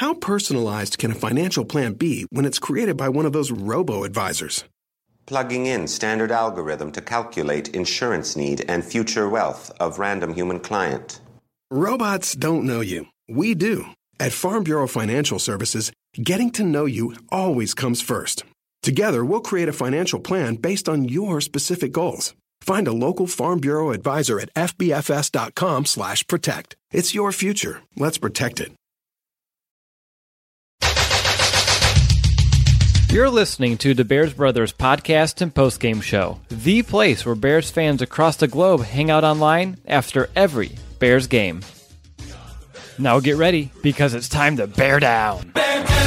How personalized can a financial plan be when it's created by one of those robo-advisors? Plugging in standard algorithm to calculate insurance need and future wealth of random human client. Robots don't know you. We do. At Farm Bureau Financial Services, getting to know you always comes first. Together, we'll create a financial plan based on your specific goals. Find a local Farm Bureau advisor at fbfs.com/protect. It's your future. Let's protect it. You're listening to the Bears Brothers podcast and postgame show, the place where Bears fans across the globe hang out online after every Bears game. Now get ready, because it's time to bear down. Bear down!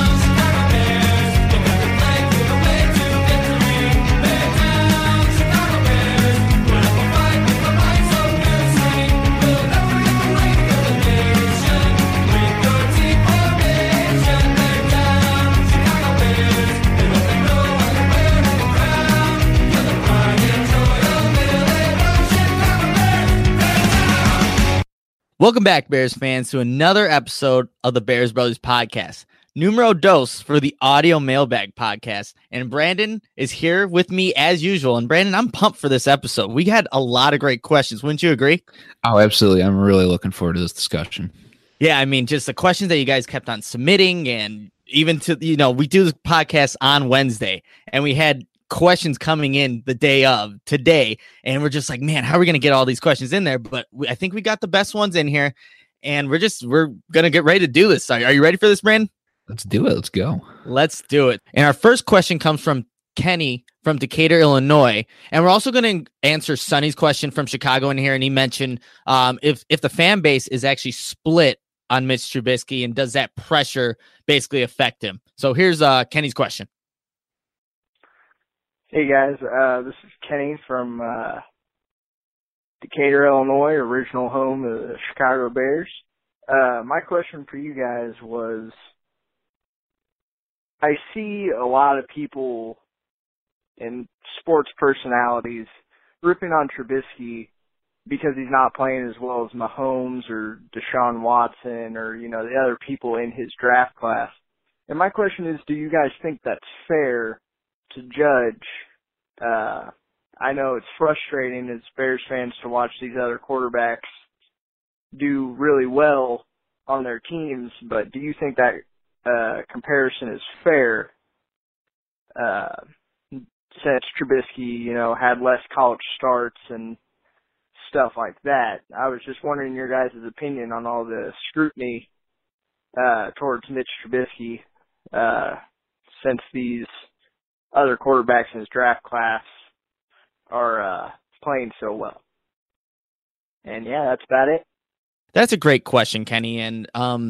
Welcome back, Bears fans, to another episode of the Bears Brothers podcast. Numero dos for the audio mailbag podcast. And Brandon is here with me as usual. And Brandon, I'm pumped for this episode. We had a lot of great questions. Wouldn't you agree? Oh, absolutely. I'm really looking forward to this discussion. Yeah, I mean, just the questions that you guys kept on submitting, and even to, we do the podcast on Wednesday, and we had questions coming in the day of today, and we're just like, man, how are we going to get all these questions in there? But I think we got the best ones in here, and we're going to get ready to do this. Are you ready for this, Brandon? Let's do it. Let's go. Let's do it. And our first question comes from Kenny from Decatur, Illinois, and we're also going to answer Sonny's question from Chicago in here, and he mentioned if the fan base is actually split on Mitch Trubisky, and does that pressure basically affect him? So here's Kenny's question. Hey guys, this is Kenny from Decatur, Illinois, original home of the Chicago Bears. My question for you guys was, I see a lot of people and sports personalities ripping on Trubisky because he's not playing as well as Mahomes or Deshaun Watson or, the other people in his draft class. And my question is, do you guys think that's fair to judge? I know it's frustrating as Bears fans to watch these other quarterbacks do really well on their teams, but do you think that comparison is fair since Trubisky, had less college starts and stuff like that? I was just wondering your guys' opinion on all the scrutiny towards Mitch Trubisky since these other quarterbacks in his draft class are playing so well. And yeah, that's about it. That's a great question, Kenny. And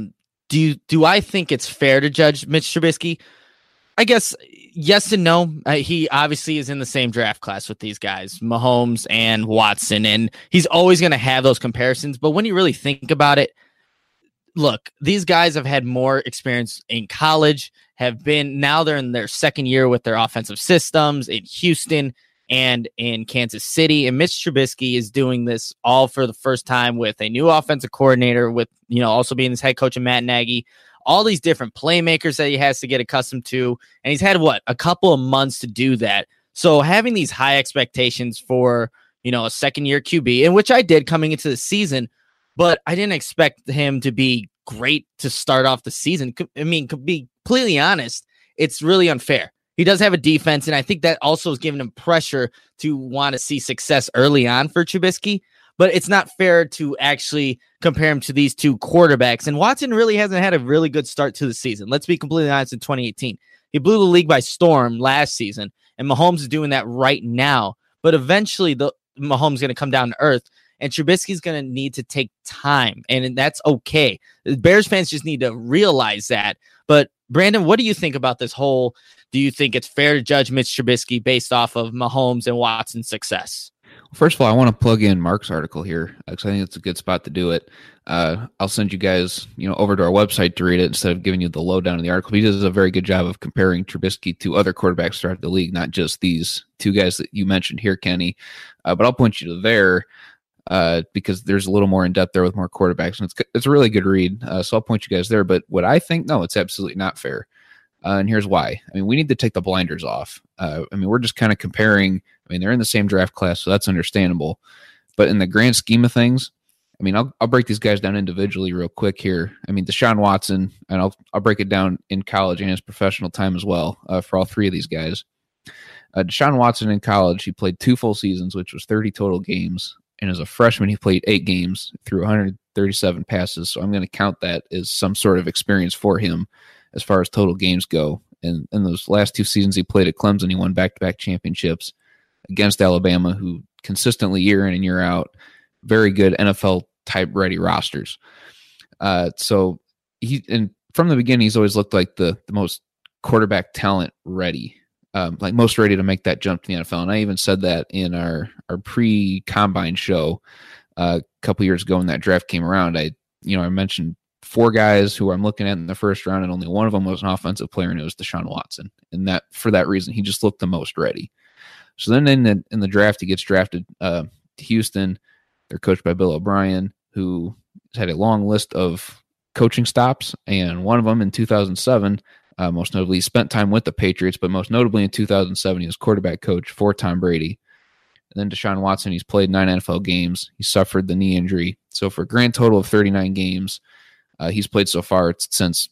do I think it's fair to judge Mitch Trubisky? I guess yes and no. He obviously is in the same draft class with these guys, Mahomes and Watson, and he's always going to have those comparisons. But when you really think about it, look, these guys have had more experience in college, now they're in their second year with their offensive systems in Houston and in Kansas City. And Mitch Trubisky is doing this all for the first time with a new offensive coordinator, with, also being his head coach, and Matt Nagy, all these different playmakers that he has to get accustomed to. And he's had a couple of months to do that. So having these high expectations for, a second year QB, in which I did coming into the season, but I didn't expect him to be great to start off the season. I mean, to be completely honest, it's really unfair. He does have a defense, and I think that also is giving him pressure to want to see success early on for Trubisky, but it's not fair to actually compare him to these two quarterbacks. And Watson really hasn't had a really good start to the season. Let's be completely honest, in 2018. He blew the league by storm last season, and Mahomes is doing that right now. But eventually, Mahomes is going to come down to earth, and Trubisky's going to need to take time, and that's okay. The Bears fans just need to realize that. But Brandon, what do you think about this whole, do you think it's fair to judge Mitch Trubisky based off of Mahomes and Watson's success? First of all, I want to plug in Mark's article here, because I think it's a good spot to do it. I'll send you guys, over to our website to read it instead of giving you the lowdown of the article. He does a very good job of comparing Trubisky to other quarterbacks throughout the league, not just these two guys that you mentioned here, Kenny. But I'll point you to there. because there's a little more in depth there with more quarterbacks, and it's a really good read. So I'll point you guys there. But what I think, no, it's absolutely not fair. And here's why. I mean, we need to take the blinders off. I mean, we're just kind of comparing. I mean, they're in the same draft class, so that's understandable. But in the grand scheme of things, I mean, I'll break these guys down individually real quick here. I mean, Deshaun Watson, and I'll break it down in college and his professional time as well for all three of these guys. Deshaun Watson in college, he played 2 full seasons, which was 30 total games. And as a freshman, he played 8 games through 137 passes. So I'm going to count that as some sort of experience for him as far as total games go. And in those last 2 seasons he played at Clemson, he won back-to-back championships against Alabama, who consistently year in and year out, very good NFL-type ready rosters. So and from the beginning, he's always looked like the most quarterback talent ready. Like most ready to make that jump to the NFL. And I even said that in our pre-combine show a couple years ago when that draft came around. I mentioned 4 guys who I'm looking at in the first round, and only one of them was an offensive player, and it was Deshaun Watson. And that for that reason, he just looked the most ready. So then in the draft, he gets drafted to Houston. They're coached by Bill O'Brien, who has had a long list of coaching stops, and one of them in 2007. Most notably, he spent time with the Patriots, but most notably in 2007, he was quarterback coach for Tom Brady. And then Deshaun Watson, he's played 9 NFL games. He suffered the knee injury. So for a grand total of 39 games, he's played so far since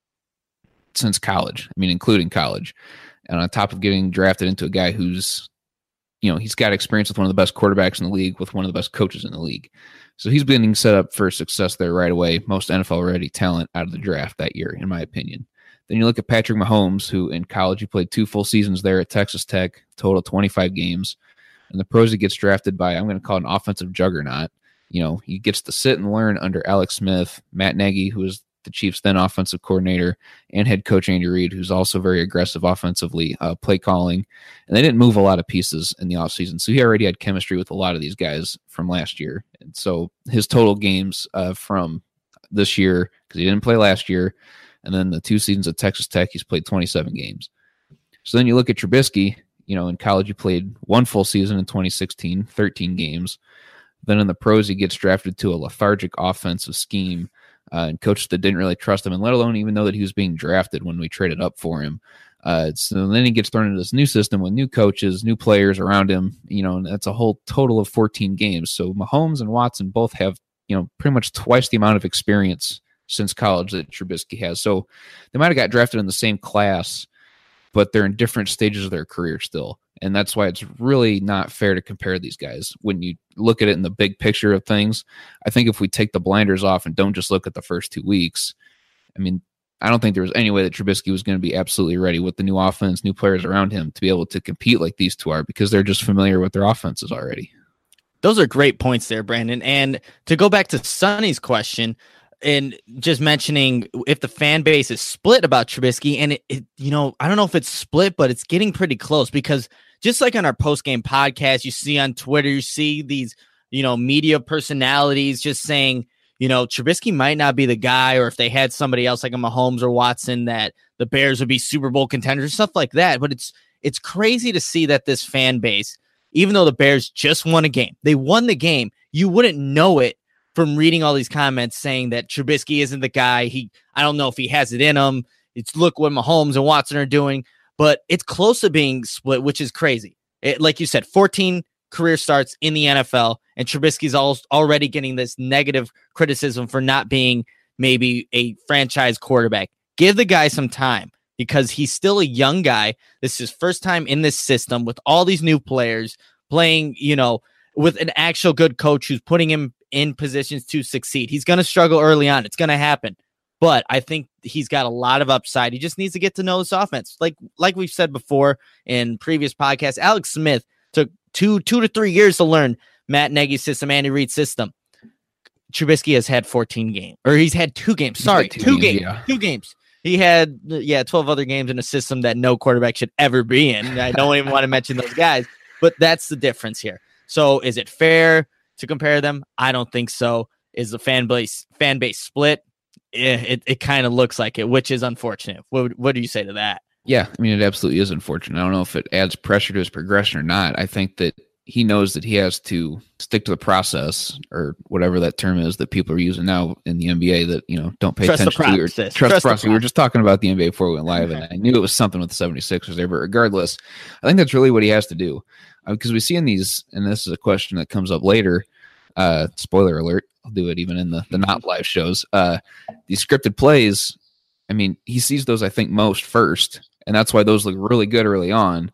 college. I mean, including college. And on top of getting drafted into a guy who's, he's got experience with one of the best quarterbacks in the league, with one of the best coaches in the league. So he's been set up for success there right away. Most NFL-ready talent out of the draft that year, in my opinion. Then you look at Patrick Mahomes, who in college he played 2 full seasons there at Texas Tech, total 25 games. And the pros, he gets drafted by, I'm going to call it an offensive juggernaut. He gets to sit and learn under Alex Smith, Matt Nagy, who was the Chiefs' then offensive coordinator, and head coach Andy Reid, who's also very aggressive offensively, play calling. And they didn't move a lot of pieces in the offseason, so he already had chemistry with a lot of these guys from last year. And so his total games from this year, because he didn't play last year, and then the 2 seasons at Texas Tech, he's played 27 games. So then you look at Trubisky, in college he played 1 full season in 2016, 13 games. Then in the pros, he gets drafted to a lethargic offensive scheme and coaches that didn't really trust him, and let alone even know that he was being drafted when we traded up for him. So then he gets thrown into this new system with new coaches, new players around him, and that's a whole total of 14 games. So Mahomes and Watson both have, pretty much twice the amount of experience since college that Trubisky has. So they might have got drafted in the same class, but they're in different stages of their career still. And that's why it's really not fair to compare these guys. When you look at it in the big picture of things, I think if we take the blinders off and don't just look at the first 2 weeks, I mean, I don't think there was any way that Trubisky was going to be absolutely ready with the new offense, new players around him to be able to compete like these two are, because they're just familiar with their offenses already. Those are great points there, Brandon. And to go back to Sonny's question, and just mentioning if the fan base is split about Trubisky, and I don't know if it's split, but it's getting pretty close, because just like on our post-game podcast, you see on Twitter, you see these, media personalities just saying, Trubisky might not be the guy, or if they had somebody else like a Mahomes or Watson, that the Bears would be Super Bowl contenders, stuff like that. But it's crazy to see that this fan base, even though the Bears just won a game, they won the game, you wouldn't know it from reading all these comments saying that Trubisky isn't the guy. I don't know if he has it in him. It's look what Mahomes and Watson are doing, but it's close to being split, which is crazy. Like you said, 14 career starts in the NFL, and Trubisky's already getting this negative criticism for not being maybe a franchise quarterback. Give the guy some time, because he's still a young guy. This is his first time in this system with all these new players playing, with an actual good coach who's putting him in positions to succeed. He's going to struggle early on. It's going to happen. But I think he's got a lot of upside. He just needs to get to know this offense. Like we've said before in previous podcasts, Alex Smith took 2 to 3 years to learn Matt Nagy's system, Andy Reid's system. Trubisky has had 14 games. Or he's had 2 games. Sorry, 2 games. Yeah. 2 games. He had 12 other games in a system that no quarterback should ever be in. I don't even want to mention those guys. But that's the difference here. So is it fair to compare them? I don't think so. Is the fan base split? It kind of looks like it, which is unfortunate. What do you say to that? Yeah, I mean, it absolutely is unfortunate. I don't know if it adds pressure to his progression or not. I think that he knows that he has to stick to the process, or whatever that term is that people are using now in the NBA that, don't pay Trust the attention to. Or process. Trust the process. We were just talking about the NBA before we went live, and I knew it was something with the 76ers there. But regardless, I think that's really what he has to do. Because we see in these, and this is a question that comes up later, spoiler alert, I'll do it even in the not live shows. These scripted plays, I mean, he sees those, I think, most first, and that's why those look really good early on.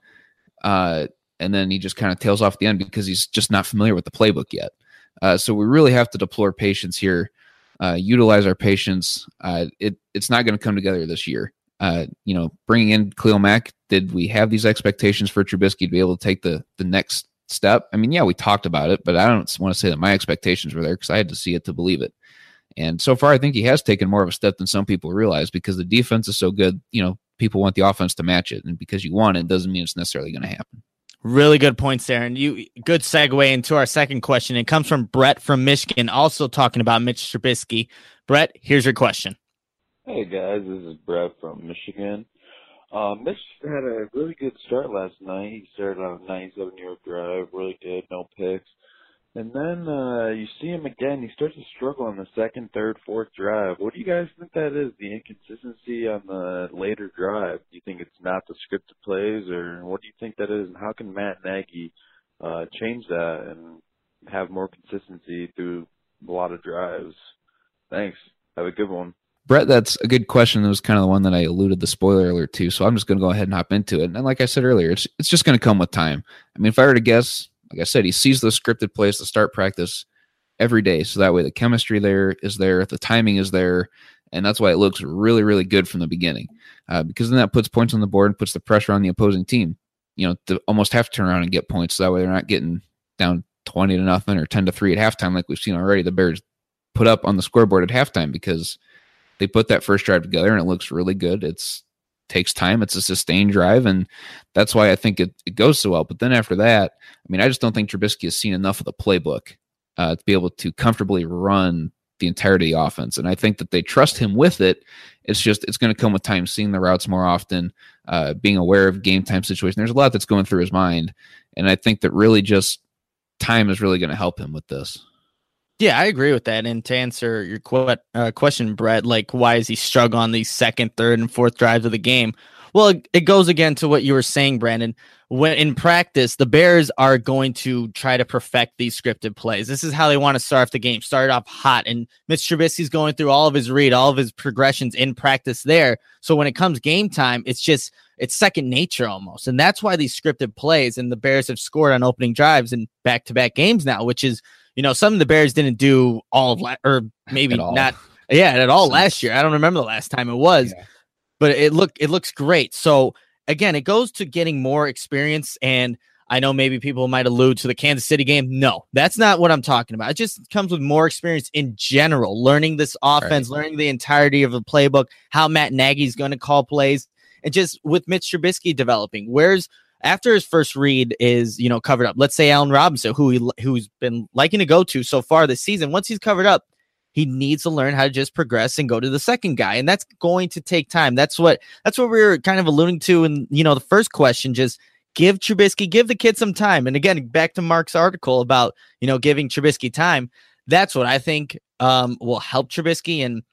And then he just kind of tails off the end because he's just not familiar with the playbook yet. So we really have to deploy patience here, utilize our patience. It's not going to come together this year. Bringing in Khalil Mack, did we have these expectations for Trubisky to be able to take the next step? I mean, yeah, we talked about it, but I don't want to say that my expectations were there because I had to see it to believe it. And so far, I think he has taken more of a step than some people realize because the defense is so good. People want the offense to match it. And because you want it doesn't mean it's necessarily going to happen. Really good points there. And good segue into our second question. It comes from Brett from Michigan, also talking about Mitch Trubisky. Brett, here's your question. Hey guys, this is Brett from Michigan. Mitch had a really good start last night. He started on a 97-yard drive, really good, no picks. And then you see him again. He starts to struggle on the second, third, fourth drive. What do you guys think that is, the inconsistency on the later drive? Do you think it's not the scripted plays, or what do you think that is? And how can Matt Nagy change that and have more consistency through a lot of drives? Thanks. Have a good one. Brett, that's a good question. That was kind of the one that I alluded the spoiler alert to, so I'm just going to go ahead and hop into it. And like I said earlier, it's just going to come with time. I mean, if I were to guess, like I said, he sees those scripted plays to start practice every day. So that way the chemistry there is there, the timing is there, and that's why it looks really, really good from the beginning. Because then that puts points on the board and puts the pressure on the opposing team, to almost have to turn around and get points. So that way they're not getting down 20-0 or 10-3 at halftime like we've seen already. The Bears put up on the scoreboard at halftime because they put that first drive together and it looks really good. Takes time. It's a sustained drive, and that's why I think it goes so well. But then after that, I mean, I just don't think Trubisky has seen enough of the playbook to be able to comfortably run the entirety of the offense. And I think that they trust him with it. It's going to come with time, seeing the routes more often, being aware of game time situations. There's a lot that's going through his mind, and I think that really just time is really going to help him with this. Yeah, I agree with that. And to answer your question, Brett, like, why is he struggling on these second, third, and fourth drives of the game? Well, it goes again to what you were saying, Brandon. When in practice, the Bears are going to try to perfect these scripted plays. This is how they want to start off the game. Start off hot, and Mitch Trubisky's going through all of his read, all of his progressions in practice there. So when it comes game time, it's second nature almost. And that's why these scripted plays, and the Bears have scored on opening drives in back-to-back games now, which is, something the Bears didn't do or maybe not at all last year. I don't remember the last time it was, but it looks great. So again, it goes to getting more experience. And I know maybe people might allude to the Kansas City game. No, that's not what I'm talking about. It just comes with more experience in general, learning this offense, learning the entirety of the playbook, how Matt Nagy's going to call plays, and just with Mitch Trubisky developing, after his first read is, covered up. Let's say Allen Robinson, who's been liking to go to so far this season. Once he's covered up, he needs to learn how to just progress and go to the second guy, and that's going to take time. That's what we were kind of alluding to in the first question. Just give the kid some time. And again, back to Mark's article about giving Trubisky time. That's what I think will help Trubisky. And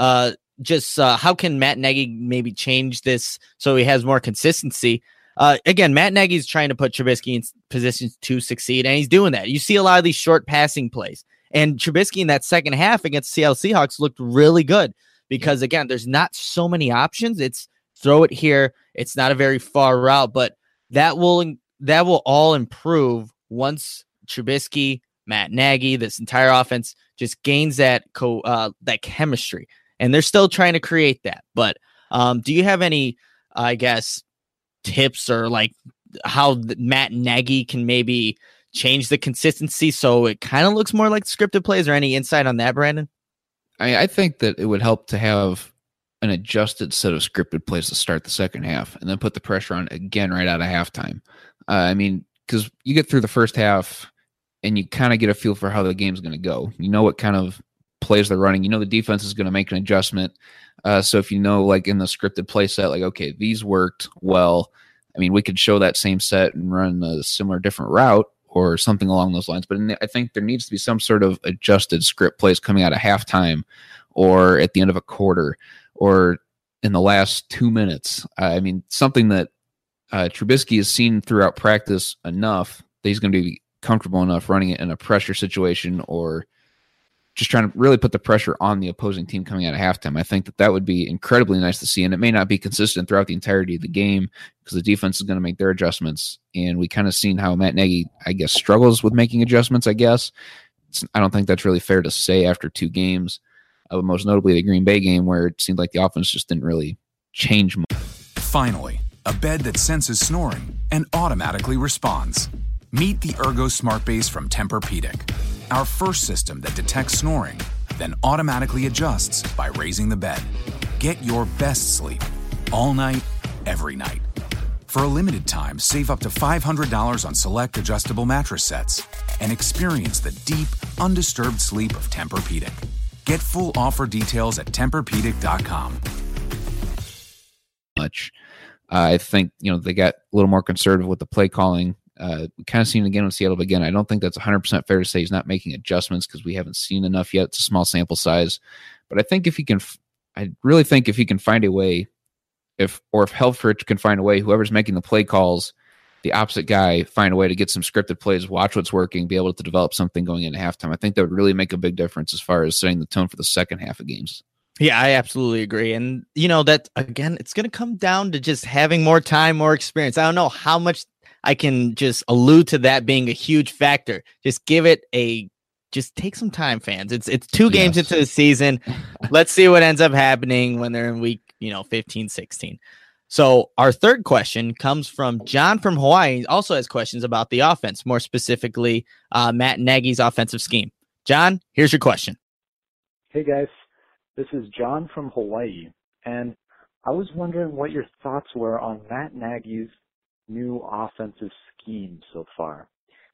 how can Matt Nagy maybe change this so he has more consistency? Again, Matt Nagy's trying to put Trubisky in positions to succeed, and he's doing that. You see a lot of these short passing plays, and Trubisky in that second half against Seattle Seahawks looked really good because, again, there's not so many options. It's throw it here. It's not a very far route, but that will all improve once Trubisky, Matt Nagy, this entire offense just gains that chemistry, and they're still trying to create that. But do you have any, tips or like how Matt Nagy can maybe change the consistency so it kind of looks more like scripted plays, or any insight on that, Brandon? I think that it would help to have an adjusted set of scripted plays to start the second half and then put the pressure on again right out of halftime. Because you get through the first half and you kind of get a feel for how the game's going to go. You know what kind of plays they're running. The defense is going to make an adjustment. So if like in the scripted play set, like, okay, these worked well. I mean, we could show that same set and run a similar different route, or something along those lines. But I think there needs to be some sort of adjusted script plays coming out of halftime or at the end of a quarter or in the last 2 minutes. I mean, something that Trubisky has seen throughout practice enough that he's going to be comfortable enough running it in a pressure situation or just trying to really put the pressure on the opposing team coming out of halftime. I think that would be incredibly nice to see, and it may not be consistent throughout the entirety of the game because the defense is going to make their adjustments, and we kind of seen how Matt Nagy, I guess, struggles with making adjustments, I guess. I don't think that's really fair to say after 2 games, most notably the Green Bay game where it seemed like the offense just didn't really change much. Finally, a bed that senses snoring and automatically responds. Meet the Ergo Smart Base from Tempur-Pedic, our first system that detects snoring, then automatically adjusts by raising the bed. Get your best sleep all night, every night. For a limited time, save up to $500 on select adjustable mattress sets and experience the deep, undisturbed sleep of Tempur-Pedic. Get full offer details at TempurPedic.com. I think, they got a little more conservative with the play calling. We kind of seen it again with Seattle, but again, I don't think that's 100% fair to say he's not making adjustments because we haven't seen enough yet. It's a small sample size. But I think I really think if he can find a way, if Helfrich can find a way, whoever's making the play calls, the opposite guy, find a way to get some scripted plays, watch what's working, be able to develop something going into halftime. I think that would really make a big difference as far as setting the tone for the second half of games. Yeah, I absolutely agree. And, that, again, it's going to come down to just having more time, more experience. I don't know how much I can just allude to that being a huge factor. Just just take some time, fans. It's 2 games into the season. Let's see what ends up happening when they're in week, 15, 16. So our third question comes from John from Hawaii. He also has questions about the offense, more specifically Matt Nagy's offensive scheme. John, here's your question. Hey, guys. This is John from Hawaii, and I was wondering what your thoughts were on Matt Nagy's new offensive scheme so far.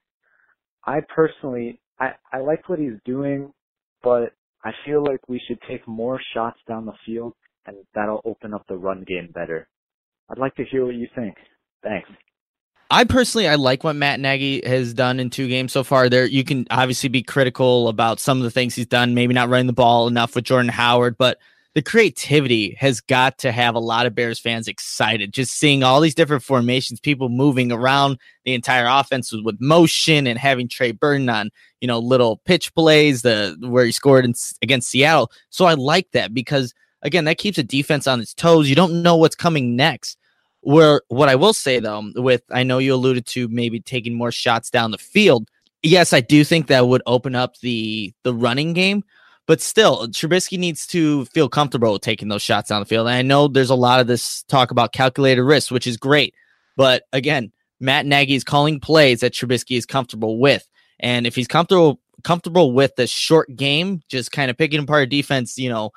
I personally, I like what he's doing, but I feel like we should take more shots down the field, and that'll open up the run game better. I'd like to hear what you think. Thanks. I like what Matt Nagy has done in 2 games so far. There, you can obviously be critical about some of the things he's done, maybe not running the ball enough with Jordan Howard, but the creativity has got to have a lot of Bears fans excited. Just seeing all these different formations, people moving around the entire offense with motion and having Trey Burton on, little pitch plays, where he scored against Seattle. So I like that because, again, that keeps the defense on its toes. You don't know what's coming next. What I will say, though, I know you alluded to maybe taking more shots down the field. Yes, I do think that would open up the running game. But still, Trubisky needs to feel comfortable with taking those shots down the field. And I know there's a lot of this talk about calculated risk, which is great. But again, Matt Nagy is calling plays that Trubisky is comfortable with. And if he's comfortable with the short game, just kind of picking apart a defense,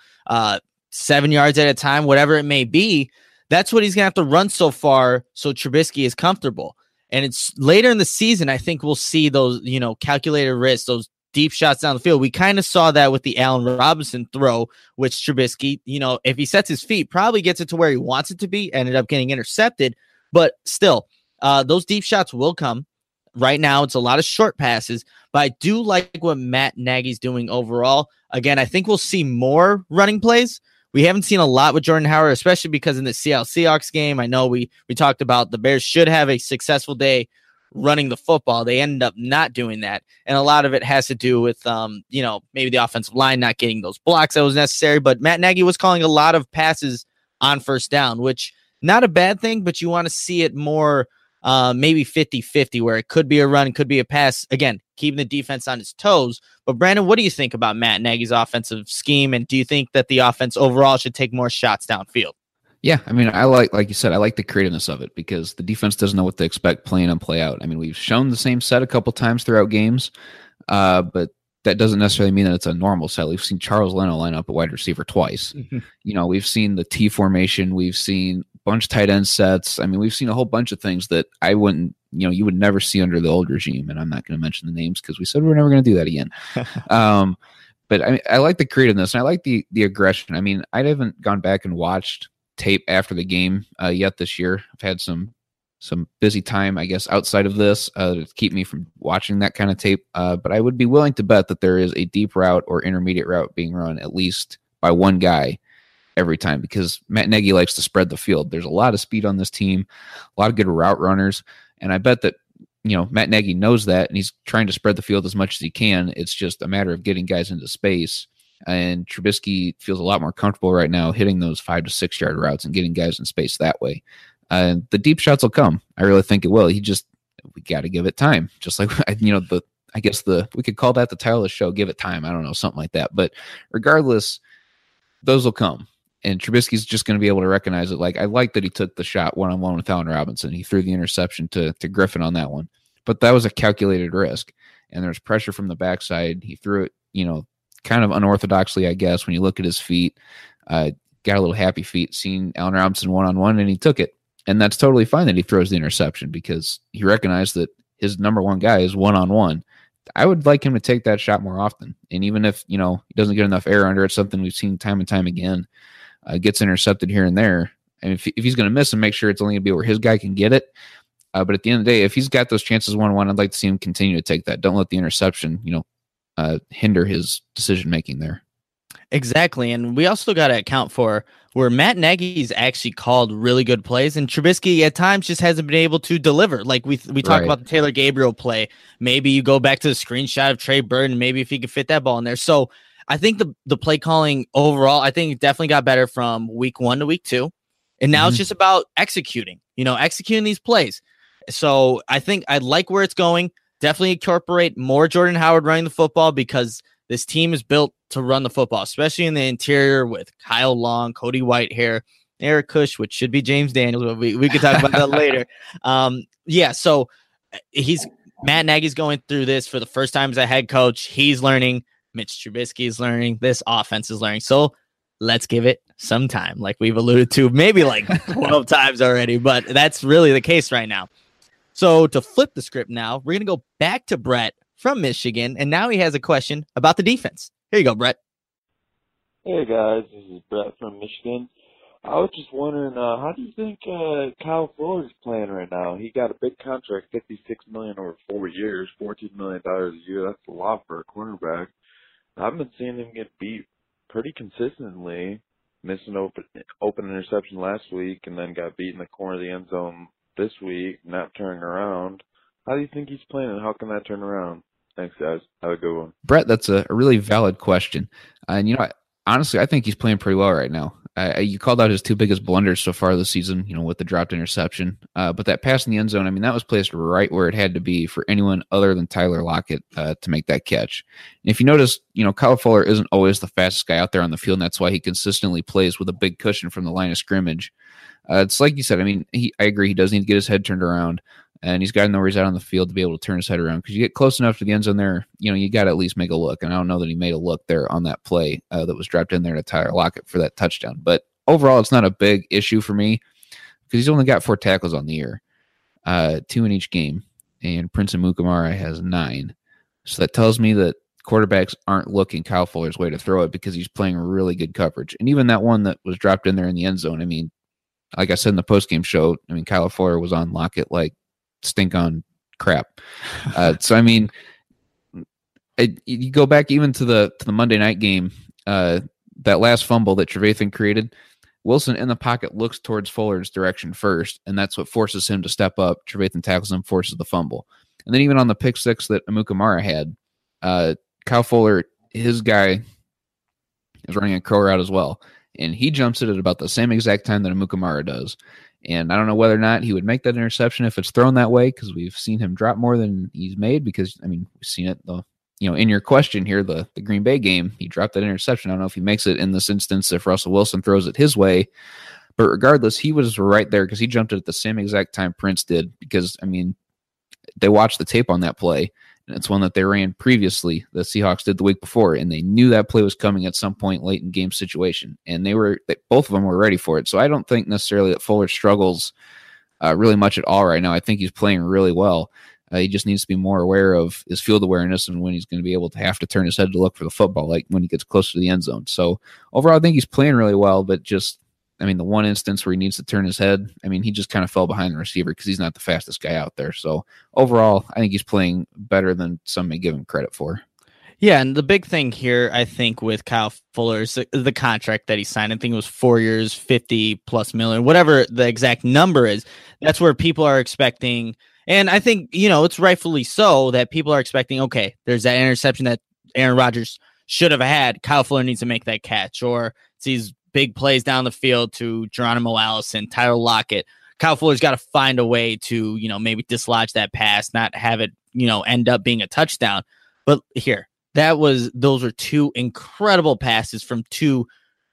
7 yards at a time, whatever it may be, that's what he's going to have to run so far so Trubisky is comfortable. And it's later in the season, I think we'll see those, calculated risks, those deep shots down the field. We kind of saw that with the Allen Robinson throw, which Trubisky, if he sets his feet, probably gets it to where he wants it to be, ended up getting intercepted. But still, those deep shots will come. Right now, it's a lot of short passes, but I do like what Matt Nagy's doing overall. Again, I think we'll see more running plays. We haven't seen a lot with Jordan Howard, especially because in the Seattle Seahawks game, I know we talked about the Bears should have a successful day running the football. They ended up not doing that. And a lot of it has to do with, maybe the offensive line not getting those blocks that was necessary. But Matt Nagy was calling a lot of passes on first down, which not a bad thing, but you want to see it more, maybe 50-50, where it could be a run, could be a pass. Again, keeping the defense on its toes. But Brandon, what do you think about Matt Nagy's offensive scheme? And do you think that the offense overall should take more shots downfield? Yeah, I mean, I like you said, I like the creativeness of it because the defense doesn't know what to expect playing and play out. I mean, we've shown the same set a couple times throughout games, but that doesn't necessarily mean that it's a normal set. We've seen Charles Leno line up a wide receiver twice. We've seen the T formation. We've seen a bunch of tight end sets. I mean, we've seen a whole bunch of things that I wouldn't, you would never see under the old regime. And I'm not going to mention the names because we said we're never going to do that again. But I like the creativeness and I like the aggression. I mean, I haven't gone back and watched tape after the game yet this year. I've had some some busy time, I guess, outside of this to keep me from watching that kind of tape. But I would be willing to bet that there is a deep route or intermediate route being run at least by one guy every time, because Matt Nagy likes to spread the field. There's a lot of speed on this team, a lot of good route runners, and I bet that Matt Nagy knows that, and he's trying to spread the field as much as he can. It's just a matter of getting guys into space, and Trubisky feels a lot more comfortable right now hitting those 5 to 6 yard routes and getting guys in space that way. The deep shots will come. I really think it will. We got to give it time. Just like, we could call that the title of the show, Give It Time. I don't know, something like that. But regardless, those will come. And Trubisky's just going to be able to recognize it. Like, I like that he took the shot one-on-one with Allen Robinson. He threw the interception to Griffin on that one. But that was a calculated risk. And there's pressure from the backside. He threw it, kind of unorthodoxly, I guess, when you look at his feet. Got a little happy feet seeing Allen Robinson one-on-one, and he took it. And that's totally fine that he throws the interception, because he recognized that his number one guy is one-on-one. I would like him to take that shot more often. And even if, he doesn't get enough air under it, something we've seen time and time again, gets intercepted here and there. And if he's going to miss him, make sure it's only going to be where his guy can get it. But at the end of the day, if he's got those chances one-on-one, I'd like to see him continue to take that. Don't let the interception, hinder his decision-making there. Exactly. And we also got to account for where Matt Nagy's actually called really good plays, and Trubisky at times just hasn't been able to deliver. Like we talk about the Taylor Gabriel play. Maybe you go back to the screenshot of Trey Burton, maybe if he could fit that ball in there. So I think the play calling overall, I think it definitely got better from week 1 to week 2. And now it's just about executing these plays. So I think I like where it's going. Definitely incorporate more Jordan Howard running the football, because this team is built to run the football, especially in the interior with Kyle Long, Cody Whitehair, Eric Kush, which should be James Daniels, but we could talk about that later. So Matt Nagy's going through this for the first time as a head coach. He's learning. Mitch Trubisky is learning. This offense is learning. So let's give it some time, like we've alluded to maybe like 12 times already, but that's really the case right now. So to flip the script now, we're going to go back to Brett from Michigan, and now he has a question about the defense. Here you go, Brett. Hey, guys. This is Brett from Michigan. I was just wondering, how do you think Kyle Fuller is playing right now? He got a big contract, $56 million over 4 years, $14 million a year. That's a lot for a cornerback. I've been seeing him get beat pretty consistently, missing open interception last week, and then got beat in the corner of the end zone this week, not turning around. How do you think he's playing, and how can that turn around? Thanks, guys. Have a good one. Brett, that's a really valid question. And, honestly, I think he's playing pretty well right now. You called out his 2 biggest blunders so far this season, with the dropped interception. But that pass in the end zone, that was placed right where it had to be for anyone other than Tyler Lockett to make that catch. And if you notice, Kyle Fuller isn't always the fastest guy out there on the field, and that's why he consistently plays with a big cushion from the line of scrimmage. It's like you said, I agree, he does need to get his head turned around. And he's got to know where he's out on the field to be able to turn his head around. Because you get close enough to the end zone there, you got to at least make a look. And I don't know that he made a look there on that play that was dropped in there to Tyler Lockett for that touchdown. But overall, it's not a big issue for me, because he's only got 4 tackles on the year, 2 in each game. And Prince Amukamara has 9. So that tells me that quarterbacks aren't looking Kyle Fuller's way to throw it, because he's playing really good coverage. And even that one that was dropped in there in the end zone, like I said in the postgame show, Kyle Fuller was on Lockett like stink on crap. You go back even to the Monday night game, that last fumble that Trevathan created, Wilson in the pocket looks towards Fuller's direction first, and that's what forces him to step up. Trevathan tackles him, forces the fumble. And then even on the pick 6 that Amukamara had, Kyle Fuller, his guy, is running a curl route as well. And he jumps it at about the same exact time that Amukamara does. And I don't know whether or not he would make that interception if it's thrown that way, because we've seen him drop more than he's made, because, we've seen it, in your question here, the Green Bay game, he dropped that interception. I don't know if he makes it in this instance if Russell Wilson throws it his way. But regardless, he was right there, because he jumped it at the same exact time Prince did, because, they watched the tape on that play, and it's one that they ran previously, the Seahawks did the week before, and they knew that play was coming at some point late in game situation, and both of them were ready for it. So I don't think necessarily that Fuller struggles really much at all right now. I think he's playing really well. He just needs to be more aware of his field awareness and when he's going to be able to have to turn his head to look for the football, like when he gets closer to the end zone. So overall, I think he's playing really well, but just I mean, the one instance where he needs to turn his head, I mean, he just kind of fell behind the receiver because he's not the fastest guy out there. So overall, I think he's playing better than some may give him credit for. Yeah, and the big thing here, I think, with Kyle Fuller is the contract that he signed. I think it was 4 years, 50+ million, whatever the exact number is. That's where people are expecting, and I think, it's rightfully so that people are expecting, okay, there's that interception that Aaron Rodgers should have had. Kyle Fuller needs to make that catch, or it's these big plays down the field to Geronimo Allison, Tyler Lockett. Kyle Fuller's got to find a way to, maybe dislodge that pass, not have it, end up being a touchdown. But here, those were two incredible passes from two,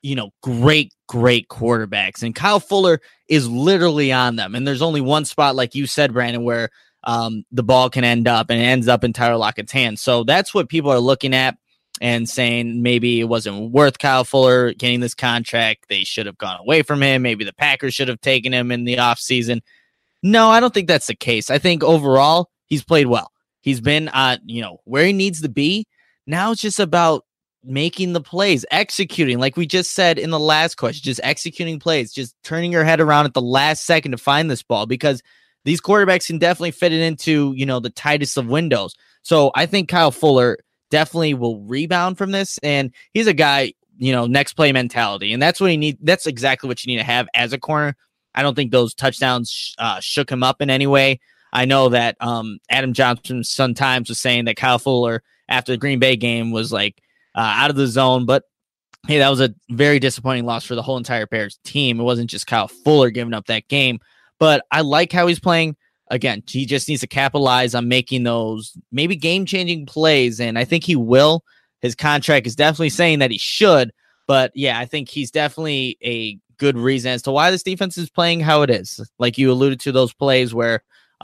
great quarterbacks. And Kyle Fuller is literally on them. And there's only one spot, like you said, Brandon, where the ball can end up, and it ends up in Tyler Lockett's hands. So that's what people are looking at and saying maybe it wasn't worth Kyle Fuller getting this contract. They should have gone away from him. Maybe the Packers should have taken him in the offseason. No, I don't think that's the case. I think overall he's played well. He's been where he needs to be. Now it's just about making the plays, executing, like we just said in the last question, just executing plays, just turning your head around at the last second to find this ball, because these quarterbacks can definitely fit it into, the tightest of windows. So I think Kyle Fuller definitely will rebound from this. And he's a guy, next play mentality. And that's what he needs. That's exactly what you need to have as a corner. I don't think those touchdowns shook him up in any way. I know that Adam Johnson sometimes was saying that Kyle Fuller after the Green Bay game was like out of the zone, but hey, that was a very disappointing loss for the whole entire Bears team. It wasn't just Kyle Fuller giving up that game, but I like how he's playing. Again, he just needs to capitalize on making those maybe game-changing plays, and I think he will. His contract is definitely saying that he should, but yeah, I think he's definitely a good reason as to why this defense is playing how it is. Like you alluded to, those plays where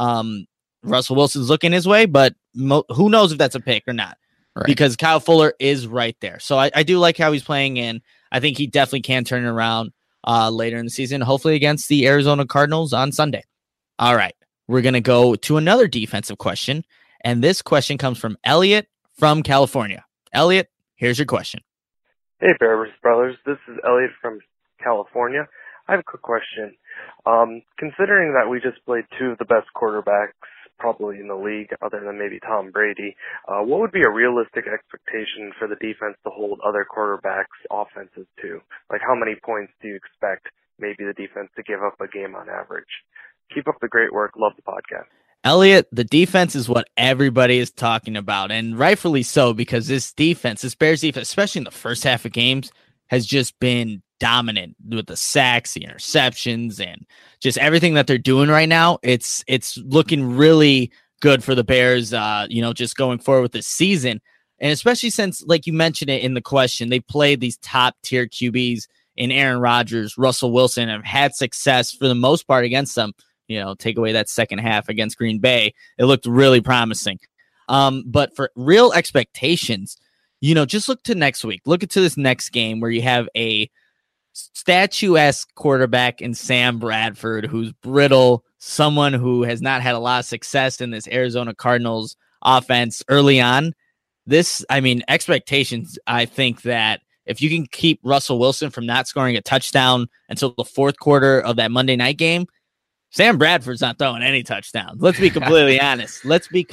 Russell Wilson's looking his way, but who knows if that's a pick or not, right? Because Kyle Fuller is right there. So I do like how he's playing, and I think he definitely can turn it around later in the season, hopefully against the Arizona Cardinals on Sunday. All right, we're going to go to another defensive question, and this question comes from Elliot from California. Elliot, here's your question. Hey, Bears Brothers. This is Elliot from California. I have a quick question. Considering that we just played two of the best quarterbacks probably in the league, other than maybe Tom Brady, what would be a realistic expectation for the defense to hold other quarterbacks' offenses to? Like, how many points do you expect maybe the defense to give up a game on average? Keep up the great work. Love the podcast. Elliot, the defense is what everybody is talking about, and rightfully so, because this Bears defense, especially in the first half of games, has just been dominant with the sacks, the interceptions, and just everything that they're doing right now. It's looking really good for the Bears, just going forward with this season. And especially since, like you mentioned it in the question, they played these top tier QBs in Aaron Rodgers, Russell Wilson, have had success for the most part against them. Take away that second half against Green Bay, it looked really promising. But for real expectations, just look to next week. Look into this next game where you have a statuesque quarterback in Sam Bradford, who's brittle, someone who has not had a lot of success in this Arizona Cardinals offense early on. Expectations, I think that if you can keep Russell Wilson from not scoring a touchdown until the fourth quarter of that Monday night game, Sam Bradford's not throwing any touchdowns. Let's be completely honest.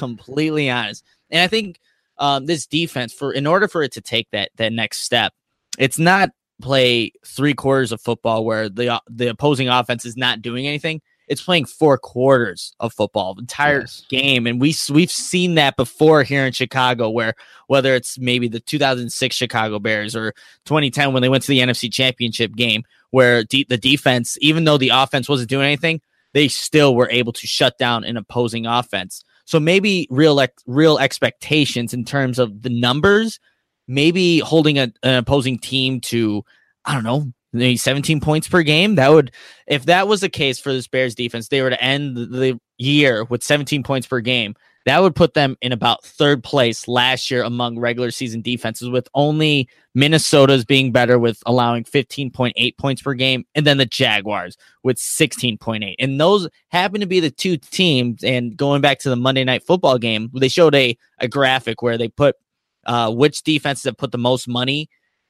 And I think this defense, in order for it to take that next step, it's not play 3 quarters of football where the opposing offense is not doing anything. It's playing 4 quarters of football, the entire game. And we've seen that before here in Chicago, where whether it's maybe the 2006 Chicago Bears or 2010 when they went to the NFC Championship game, where the defense, even though the offense wasn't doing anything, they still were able to shut down an opposing offense. So maybe real expectations in terms of the numbers, maybe holding an opposing team to, I don't know, maybe 17 points per game. If that was the case for this Bears defense, they were to end the year with 17 points per game. That would put them in about 3rd place last year among regular season defenses, with only Minnesota's being better with allowing 15.8 points per game, and then the Jaguars with 16.8. And those happen to be the 2 teams. And going back to the Monday Night Football game, they showed a graphic where they put which defenses have put the most money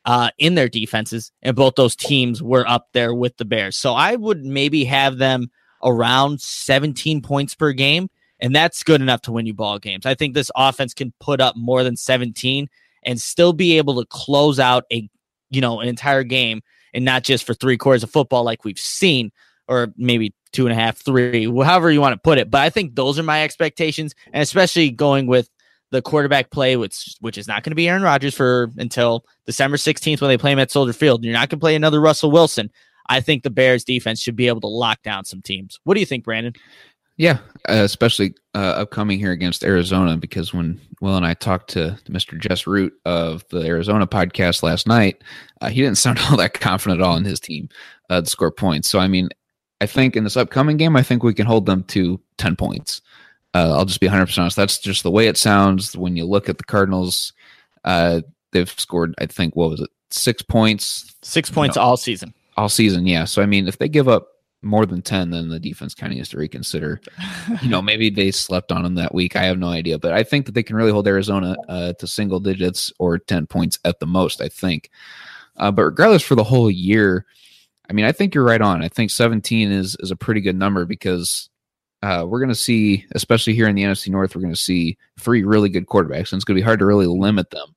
in their defenses, and both those teams were up there with the Bears. So I would maybe have them around 17 points per game, and that's good enough to win you ball games. I think this offense can put up more than 17 and still be able to close out an entire game, and not just for 3 quarters of football like we've seen, or maybe 2.5, 3, however you want to put it. But I think those are my expectations, and especially going with the quarterback play, which is not going to be Aaron Rodgers until December 16th when they play him at Soldier Field. You're not going to play another Russell Wilson. I think the Bears defense should be able to lock down some teams. What do you think, Brandon? Yeah, especially upcoming here against Arizona, because when Will and I talked to Mr. Jess Root of the Arizona podcast last night, he didn't sound all that confident at all in his team to score points. So, I mean, I think in this upcoming game, I think we can hold them to 10 points. I'll just be 100% honest. That's just the way it sounds. When you look at the Cardinals, they've scored, I think, 6 points? 6 points all season. All season, yeah. So, I mean, if they give up more than 10, then the defense kind of needs to reconsider. Maybe they slept on them that week. I have no idea. But I think that they can really hold Arizona to single digits or 10 points at the most, I think. But regardless, for the whole year, I mean, I think you're right on. I think 17 is a pretty good number, because we're going to see, especially here in the NFC North, we're going to see 3 really good quarterbacks, and it's going to be hard to really limit them.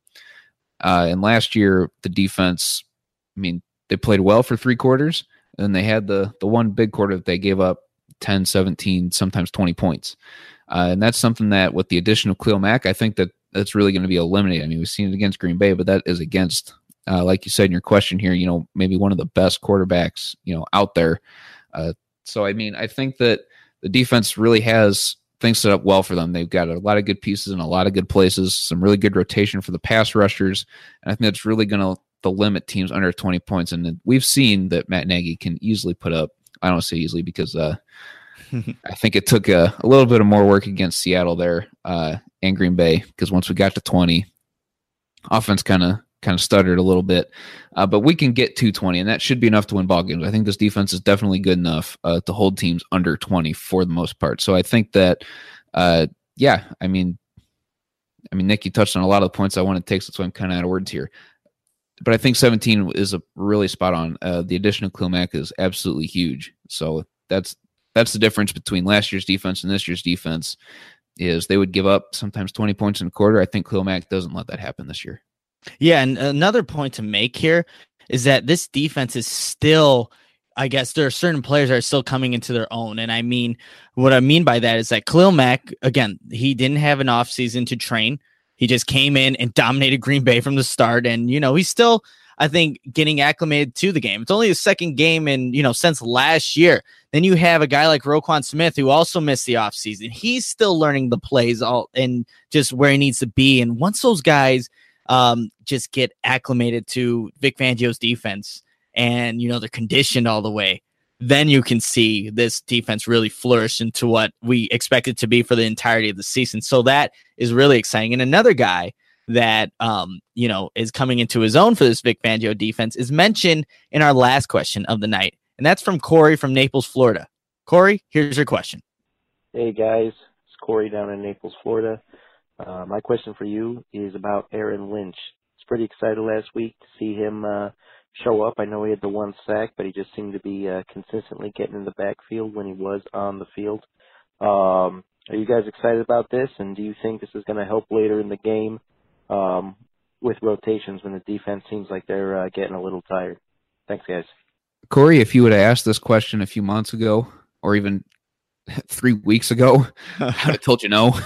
And last year, the defense, I mean, they played well for 3 quarters, and they had the one big quarter that they gave up 10, 17, sometimes 20 points. And that's something that with the addition of Khalil Mack, I think that's really going to be eliminated. I mean, we've seen it against Green Bay, but that is against, like you said in your question here, maybe one of the best quarterbacks, out there. So, I mean, I think that the defense really has things set up well for them. They've got a lot of good pieces in a lot of good places, some really good rotation for the pass rushers. And I think that's really going to limit teams under 20 points. And we've seen that Matt Nagy can easily put up, I don't say easily, because I think it took a little bit of more work against Seattle there and Green Bay, because once we got to 20, offense kind of stuttered a little bit. But we can get to 20, and that should be enough to win ball games. I think this defense is definitely good enough to hold teams under 20 for the most part. So I think that, I mean, Nick, you touched on a lot of the points I want to take, so that's why I'm kind of out of words here. But I think 17 is a really spot on. The addition of Khalil Mack is absolutely huge. So that's the difference between last year's defense and this year's defense, is they would give up sometimes 20 points in a quarter. I think Khalil Mack doesn't let that happen this year. Yeah, and another point to make here is that this defense is still, I guess there are certain players that are still coming into their own. And I mean, what I mean by that is that Khalil Mack, again, he didn't have an offseason to train. He just came in and dominated Green Bay from the start. And, he's still, I think, getting acclimated to the game. It's only his second game since last year. Then you have a guy like Roquan Smith, who also missed the offseason. He's still learning the plays and just where he needs to be. And once those guys just get acclimated to Vic Fangio's defense and, they're conditioned all the way, then you can see this defense really flourish into what we expect it to be for the entirety of the season. So that is really exciting. And another guy that, is coming into his own for this Vic Fangio defense is mentioned in our last question of the night. And that's from Corey from Naples, Florida. Corey, here's your question. Hey guys, it's Corey down in Naples, Florida. My question for you is about Aaron Lynch. I was pretty excited last week to see him show up. I know he had the 1 sack, but he just seemed to be consistently getting in the backfield when he was on the field. Are you guys excited about this, and do you think this is going to help later in the game with rotations when the defense seems like they're getting a little tired? Thanks, guys. Corey, if you would have asked this question a few months ago or even 3 weeks ago, I would have told you no.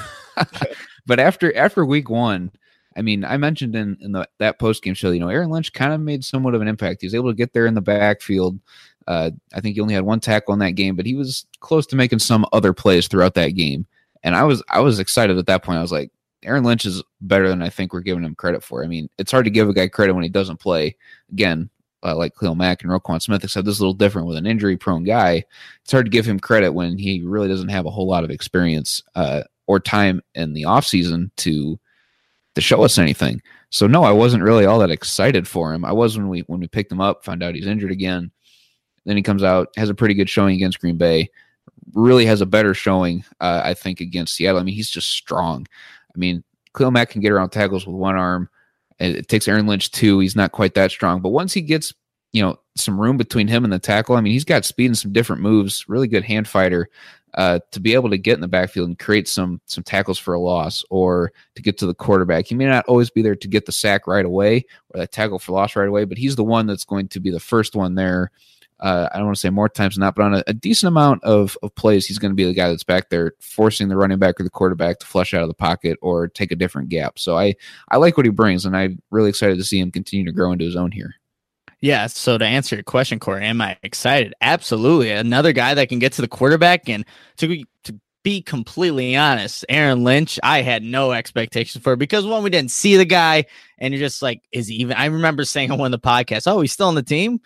But after week 1, I mean, I mentioned in that post-game show, Aaron Lynch kind of made somewhat of an impact. He was able to get there in the backfield. I think he only had 1 tackle in that game, but he was close to making some other plays throughout that game. And I was excited at that point. I was like, Aaron Lynch is better than I think we're giving him credit for. I mean, it's hard to give a guy credit when he doesn't play. Again, like Khalil Mack and Roquan Smith, except this is a little different with an injury-prone guy. It's hard to give him credit when he really doesn't have a whole lot of experience or time in the offseason to show us anything. So no, I wasn't really all that excited for him. I was when we picked him up, found out he's injured again. Then he comes out, has a pretty good showing against Green Bay, really has a better showing, I think, against Seattle. I mean, he's just strong. I mean, Khalil Mack can get around tackles with 1 arm. It takes Aaron Lynch 2. He's not quite that strong. But once he gets, some room between him and the tackle, I mean, he's got speed and some different moves, really good hand fighter to be able to get in the backfield and create some tackles for a loss or to get to the quarterback. He may not always be there to get the sack right away or that tackle for loss right away, but he's the one that's going to be the first one there. I don't want to say more times than not, but on a decent amount of plays, he's going to be the guy that's back there forcing the running back or the quarterback to flush out of the pocket or take a different gap. So I like what he brings, and I'm really excited to see him continue to grow into his own here. Yeah, so to answer your question, Corey, am I excited? Absolutely. Another guy that can get to the quarterback, and to be completely honest, Aaron Lynch, I had no expectations for, because one, we didn't see the guy, and you're just like, is he even? I remember saying on one of the podcasts, oh, he's still on the team,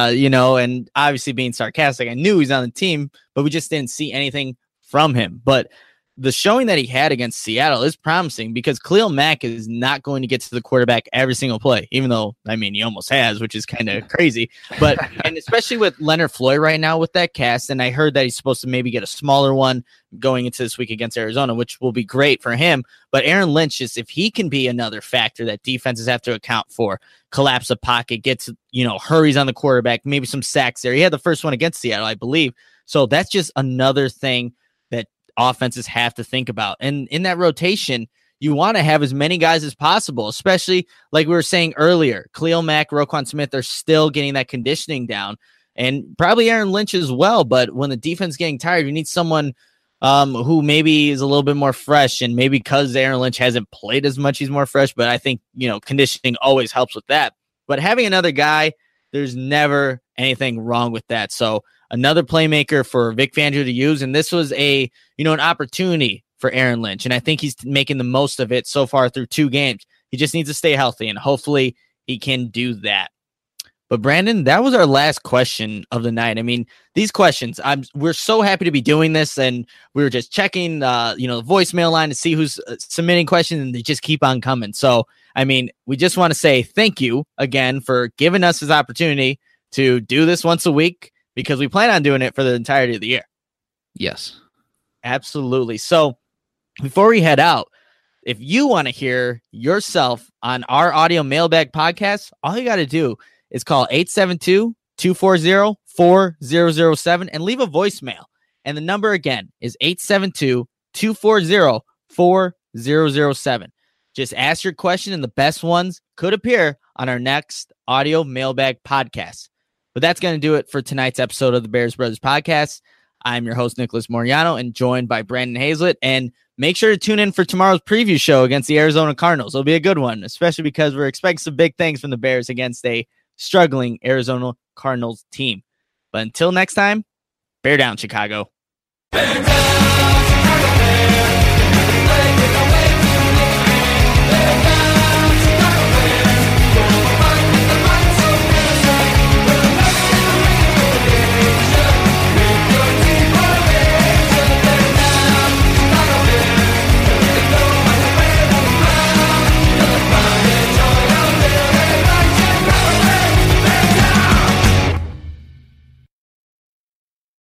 and obviously being sarcastic. I knew he's on the team, but we just didn't see anything from him. But the showing that he had against Seattle is promising, because Khalil Mack is not going to get to the quarterback every single play, even though, I mean, he almost has, which is kind of crazy. But, and especially with Leonard Floyd right now with that cast, and I heard that he's supposed to maybe get a smaller one going into this week against Arizona, which will be great for him. But Aaron Lynch, just if he can be another factor that defenses have to account for, collapse the pocket, gets, hurries on the quarterback, maybe some sacks there. He had the first one against Seattle, I believe. So that's just another thing that offenses have to think about. And in that rotation, you want to have as many guys as possible, especially like we were saying earlier, Khalil Mack, Roquan Smith are still getting that conditioning down, and probably Aaron Lynch as well. But when the defense is getting tired, you need someone who maybe is a little bit more fresh, and maybe because Aaron Lynch hasn't played as much, he's more fresh. But I think, conditioning always helps with that. But having another guy, there's never anything wrong with that. So another playmaker for Vic Fangio to use. And this was an opportunity for Aaron Lynch. And I think he's making the most of it so far through 2 games. He just needs to stay healthy, and hopefully he can do that. But Brandon, that was our last question of the night. I mean, these questions, we're so happy to be doing this, and we were just checking, the voicemail line to see who's submitting questions, and they just keep on coming. So, I mean, we just want to say thank you again for giving us this opportunity to do this once a week, because we plan on doing it for the entirety of the year. Yes, absolutely. So before we head out, if you want to hear yourself on our audio mailbag podcast, all you got to do is call 872-240-4007 and leave a voicemail. And the number again is 872-240-4007. Just ask your question, and the best ones could appear on our next audio mailbag podcast. But that's going to do it for tonight's episode of the Bears Brothers Podcast. I'm your host, Nicholas Moriano, and joined by Brandon Hazlett. And make sure to tune in for tomorrow's preview show against the Arizona Cardinals. It'll be a good one, especially because we're expecting some big things from the Bears against a struggling Arizona Cardinals team. But until next time, bear down, Chicago. Bear down!